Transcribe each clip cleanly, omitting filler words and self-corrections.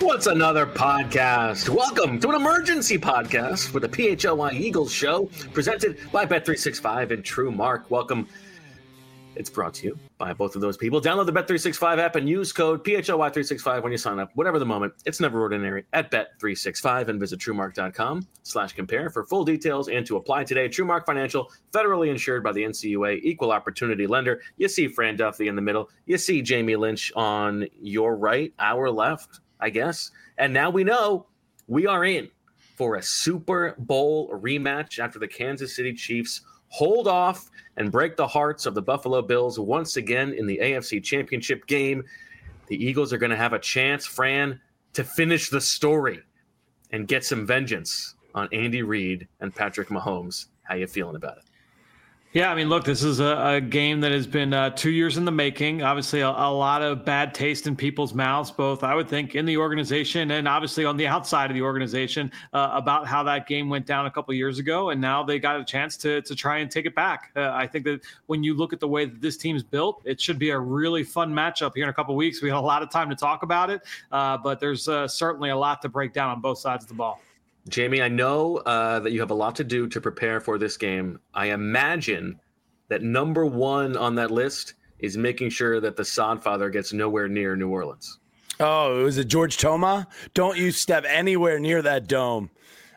What's Another Podcast? Welcome to an emergency podcast for the PHLY Eagles show, presented by Bet365 and True Mark. Welcome. It's brought to you by both of those people. Download the Bet365 app and use code PHLY365 when you sign up. Whatever the moment, it's never ordinary at Bet365 and visit TrueMark.com/compare for full details and to apply today. TrueMark Financial, federally insured by the NCUA, equal opportunity lender. You see Fran Duffy in the middle. You see Jamie Lynch on your right, our left, I guess. And now we know we are in for a Super Bowl rematch after the Kansas City Chiefs hold off and break the hearts of the Buffalo Bills once again in the AFC Championship game. The Eagles are going to have a chance, Fran, to finish the story and get some vengeance on Andy Reid and Patrick Mahomes. How you feeling about it? Yeah, I mean, look, this is a game that has been 2 years in the making. Obviously, a lot of bad taste in people's mouths, both, I would think, in the organization and obviously on the outside of the organization about how that game went down a couple of years ago. And now they got a chance to try and take it back. I think that when you look at the way that this team's built, it should be a really fun matchup here in a couple of weeks. We have a lot of time to talk about it, but there's certainly a lot to break down on both sides of the ball. Jamie, I know that you have a lot to do to prepare for this game. I imagine that number one on that list is making sure that the Sodfather gets nowhere near New Orleans. Oh, was it George Toma? Don't you step anywhere near that dome.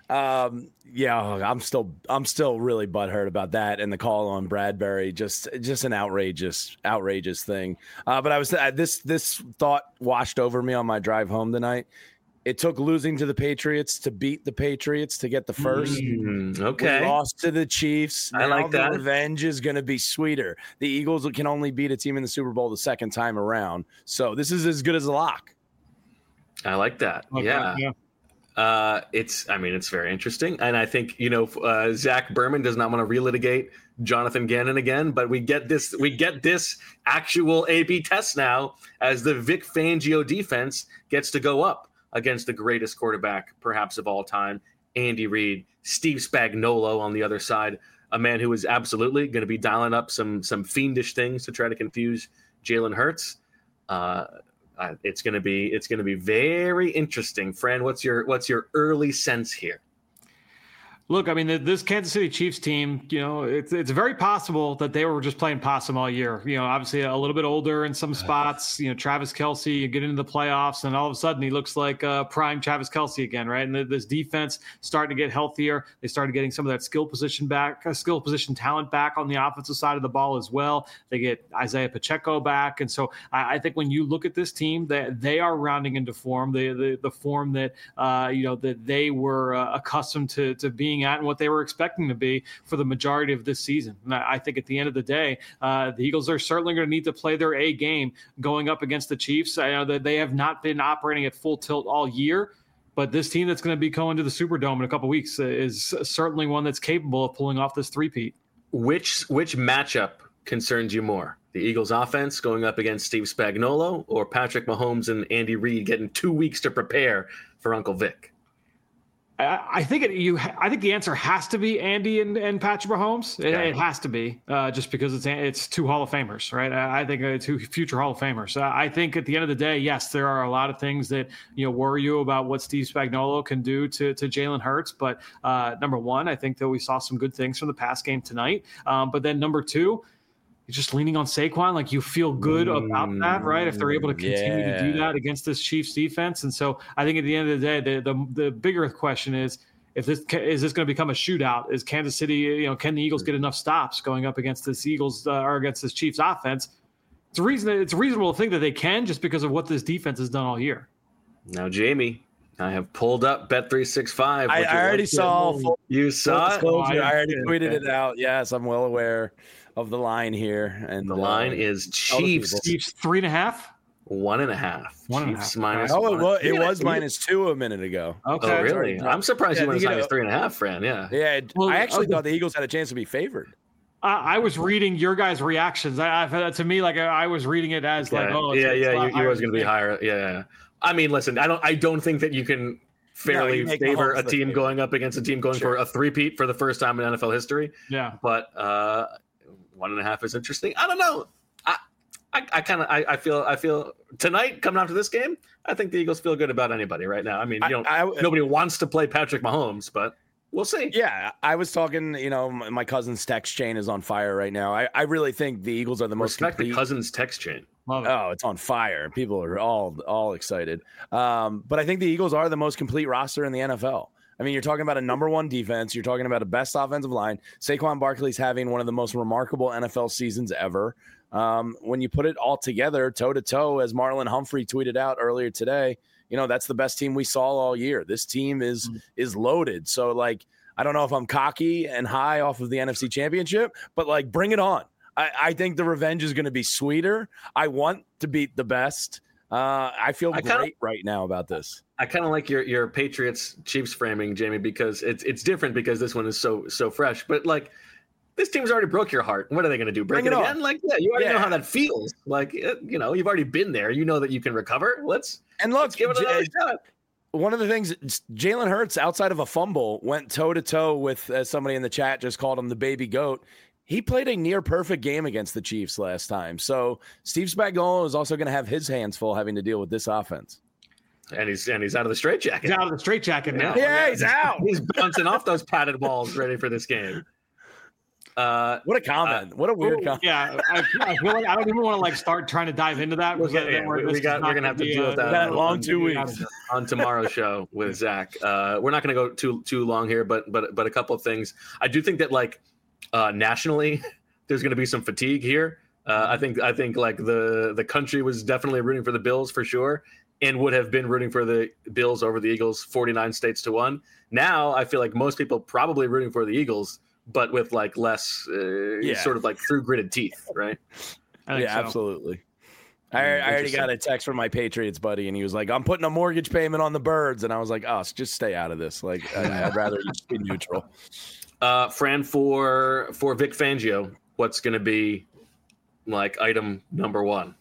Yeah, I'm still really butthurt about that and the call on Bradbury. Just an outrageous thing. But I was this thought washed over me on my drive home tonight. It took losing to the Patriots to beat the Patriots to get the first. Okay. We lost to the Chiefs. I like that. The revenge is going to be sweeter. The Eagles can only beat a team in the Super Bowl the second time around. So this is as good as a lock. I like that. Okay, yeah. It's very interesting. And I think, Zach Berman does not want to relitigate Jonathan Gannon again, but we get this actual A/B test now as the Vic Fangio defense gets to go up against the greatest quarterback, perhaps of all time, Andy Reid. Steve Spagnuolo on the other side, a man who is absolutely going to be dialing up some fiendish things to try to confuse Jalen Hurts. It's going to be very interesting. Fran, what's your early sense here? Look, I mean, this Kansas City Chiefs team, it's very possible that they were just playing possum all year. Obviously a little bit older in some spots. Travis Kelce, you get into the playoffs, and all of a sudden he looks like prime Travis Kelce again, right? And this defense starting to get healthier. They started getting some of that skill position talent back on the offensive side of the ball as well. They get Isaiah Pacheco back, and so I think when you look at this team, they are rounding into form, the form that that they were accustomed to being at and what they were expecting to be for the majority of this season. And I think at the end of the day, the Eagles are certainly going to need to play their A game going up against the Chiefs. I know that they have not been operating at full tilt all year, but this team that's going to be going to the Superdome in a couple of weeks is certainly one that's capable of pulling off this three-peat. Which matchup concerns you more? The Eagles offense going up against Steve Spagnuolo, or Patrick Mahomes and Andy Reid getting 2 weeks to prepare for Uncle Vic? I think the answer has to be Andy and Patrick Mahomes. It has to be just because it's two Hall of Famers, right? I think two future Hall of Famers. I think at the end of the day, yes, there are a lot of things that worry you about what Steve Spagnuolo can do to Jalen Hurts. But number one, I think that we saw some good things from the pass game tonight. But then number two, just leaning on Saquon, like you feel good about that, right? If they're able to continue to do that against this Chiefs defense. And so I think at the end of the day, the bigger question is this going to become a shootout? Is Kansas City, can the Eagles get enough stops going up against this Eagles or against this Chiefs offense? It's reasonable to think that they can just because of what this defense has done all year. Now, Jamie, I have pulled up Bet365. I already saw. You saw it? I already tweeted it out. Yes, I'm well aware of the line here, and the line is Chiefs 3.5, 1.5. Chiefs minus. It was -2 a minute ago. Okay, oh really? I'm surprised you went as high as 3.5, Fran. Yeah. I actually thought the Eagles had a chance to be favored. I was reading your guys' reactions. To me, like I was reading it as like, you was going to be higher. Yeah. I mean, listen, I don't think that you can fairly favor a team going up against a team going for a three-peat for the first time in NFL history. Yeah. But 1.5 is interesting. I don't know. I feel tonight coming after this game, I think the Eagles feel good about anybody right now. I mean, nobody wants to play Patrick Mahomes, but we'll see. Yeah, I was talking, my cousin's text chain is on fire right now. I really think the Eagles are the most Respect complete. the cousin's text chain. Oh, it's on fire. People are all excited. But I think the Eagles are the most complete roster in the NFL. I mean, you're talking about a number one defense. You're talking about a best offensive line. Saquon Barkley's having one of the most remarkable NFL seasons ever. When you put it all together, toe-to-toe, as Marlon Humphrey tweeted out earlier today, that's the best team we saw all year. This team is loaded. So, I don't know if I'm cocky and high off of the NFC Championship, but, bring it on. I think the revenge is going to be sweeter. I want to beat the best. I feel great right now about this. I kind of like your Patriots Chiefs framing, Jamie, because it's different because this one is so fresh. But this team's already broke your heart. What are they going to do? Break it again? You already know how that feels. You've already been there. You know that you can recover. Let's give it another shot. One of the things, Jalen Hurts, outside of a fumble, went toe-to-toe with, as somebody in the chat just called him, the baby goat. He played a near-perfect game against the Chiefs last time. So Steve Spagnuolo is also going to have his hands full having to deal with this offense. And he's out of the straitjacket. He's out of the straitjacket now. Yeah, he's out. He's bouncing off those padded walls ready for this game. What a comment. What a weird comment. Yeah, I feel like I don't even want to start trying to dive into that. We're going to have to deal with that long 2 weeks on tomorrow's show with Zach. We're not going to go too long here, but a couple of things. I do think that nationally, there's going to be some fatigue here. I think the country was definitely rooting for the Bills for sure, and would have been rooting for the Bills over the Eagles 49 states to 1. Now I feel like most people probably rooting for the Eagles, but with less sort of through gritted teeth, right? Yeah, so. Absolutely. I already got a text from my Patriots buddy, and he was like, "I'm putting a mortgage payment on the Birds," and I was like, "Oh, just stay out of this. I'd rather you just be neutral." Fran, for Vic Fangio, what's going to be item number one?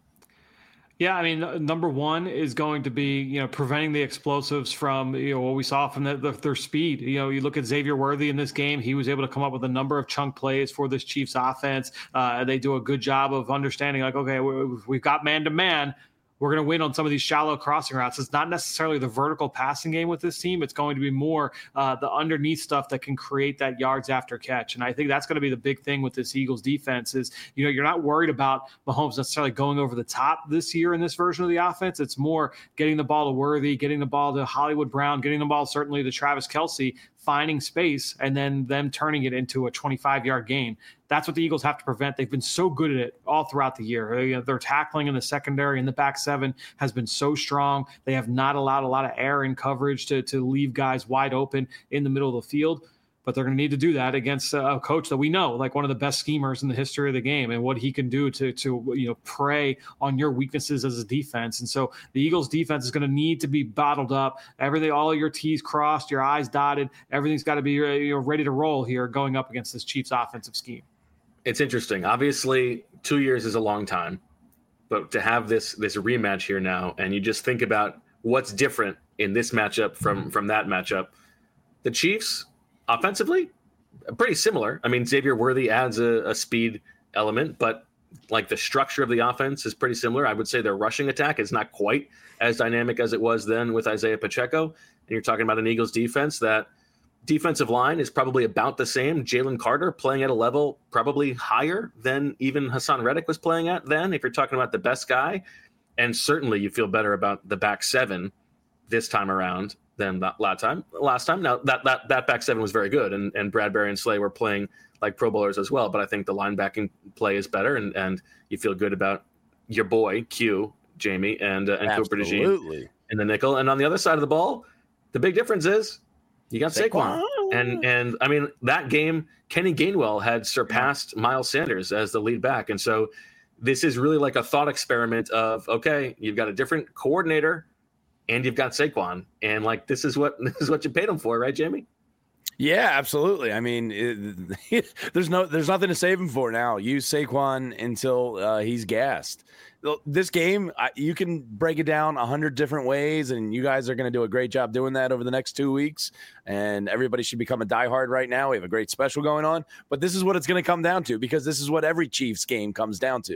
Yeah, I mean, number one is going to be, preventing the explosives from, what we saw from their speed. You look at Xavier Worthy in this game, he was able to come up with a number of chunk plays for this Chiefs offense. They do a good job of understanding, okay, we've got man-to-man. We're going to win on some of these shallow crossing routes. It's not necessarily the vertical passing game with this team. It's going to be more the underneath stuff that can create that yards after catch. And I think that's going to be the big thing with this Eagles defense is, you're not worried about Mahomes necessarily going over the top this year in this version of the offense. It's more getting the ball to Worthy, getting the ball to Hollywood Brown, getting the ball certainly to Travis Kelce, finding space, and then them turning it into a 25-yard gain. That's what the Eagles have to prevent. They've been so good at it all throughout the year. Their tackling in the secondary and the back seven has been so strong. They have not allowed a lot of air in coverage to leave guys wide open in the middle of the field. But they're going to need to do that against a coach that we know, one of the best schemers in the history of the game, and what he can do to prey on your weaknesses as a defense. And so the Eagles defense is going to need to be bottled up. All your T's crossed, your I's dotted. Everything's got to be ready to roll here going up against this Chiefs offensive scheme. It's interesting. Obviously, 2 years is a long time, but to have this rematch here now, and you just think about what's different in this matchup from that matchup, the Chiefs offensively, pretty similar. I mean, Xavier Worthy adds a speed element, but the structure of the offense is pretty similar. I would say their rushing attack is not quite as dynamic as it was then with Isaiah Pacheco. And you're talking about an Eagles defense that defensive line is probably about the same. Jalen Carter playing at a level probably higher than even Hassan Reddick was playing at then, if you're talking about the best guy. And certainly you feel better about the back seven this time around than last time. Now that back seven was very good, and Bradbury and Slay were playing like Pro Bowlers as well. But I think the linebacking play is better, and you feel good about your boy Q, Jamie, and Cooper DeJean in the nickel. And on the other side of the ball, the big difference is you got Saquon. And I mean, that game, Kenny Gainwell had surpassed Miles Sanders as the lead back. And so this is really like a thought experiment of, okay, you've got a different coordinator and you've got Saquon. And this is what you paid him for, right, Jamie? Yeah, absolutely. I mean, there's nothing to save him for now. Use Saquon until he's gassed. This game, you can break it down 100 different ways, and you guys are going to do a great job doing that over the next 2 weeks. And everybody should become a diehard right now. We have a great special going on, but this is what it's going to come down to, because this is what every Chiefs game comes down to.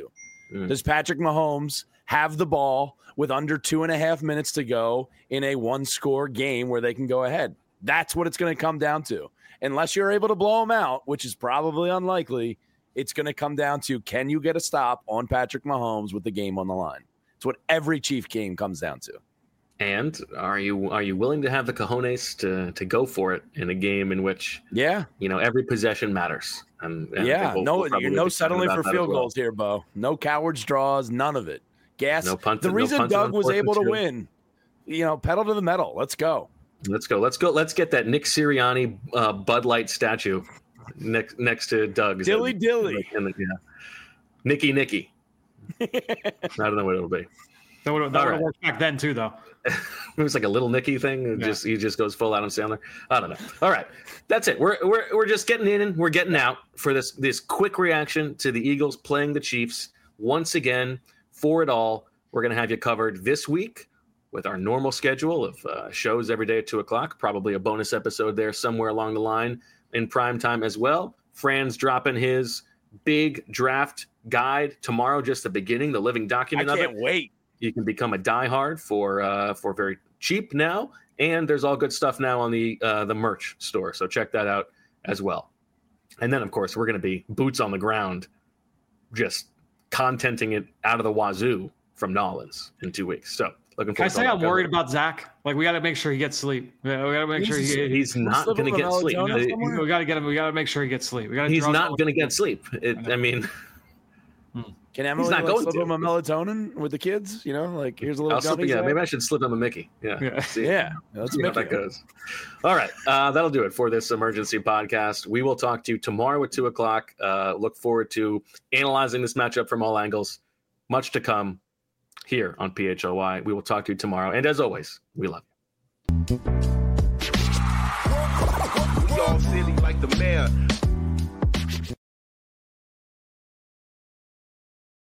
Does Patrick Mahomes have the ball with under 2.5 minutes to go in a one-score game where they can go ahead? That's what it's going to come down to. Unless you're able to blow them out, which is probably unlikely, it's going to come down to, can you get a stop on Patrick Mahomes with the game on the line? It's what every Chief game comes down to. And are you willing to have the cojones to go for it in a game in which every possession matters? And you're no settling for field goals here, Bo. No cowards draws, none of it. No punting, the reason Doug was able to win, pedal to the metal. Let's go. Let's get that Nick Sirianni Bud Light statue next to Doug's. Dilly. Nicky. I don't know what it'll be. That would have worked back then too, though. It was like a little Nicky thing. He just goes full Adam Sandler. I don't know. All right, that's it. We're just getting in and we're getting out for this quick reaction to the Eagles playing the Chiefs once again. For it all, we're going to have you covered this week with our normal schedule of shows every day at 2:00. Probably a bonus episode there somewhere along the line in prime time as well. Fran's dropping his big draft guide tomorrow, just the beginning, the living document of it. I can't wait. You can become a diehard for very cheap now, and there's all good stuff now on the merch store. So check that out as well. And then, of course, we're going to be boots on the ground, just contenting it out of the wazoo from Nolans in 2 weeks. So looking forward. Can I say I'm worried about Zach? Like, we got to make sure he gets sleep. We got to make sure he's not going to get sleep. We got to get him. We got to make sure he gets sleep. He's not going to get sleep. Can Emily slip him a melatonin with the kids? Here's a little. Maybe I should slip him a Mickey. Let's see how that goes. All right, that'll do it for this emergency podcast. We will talk to you tomorrow at 2:00. Look forward to analyzing this matchup from all angles. Much to come here on PHOY. We will talk to you tomorrow, and as always, we love you. We all silly like the mayor.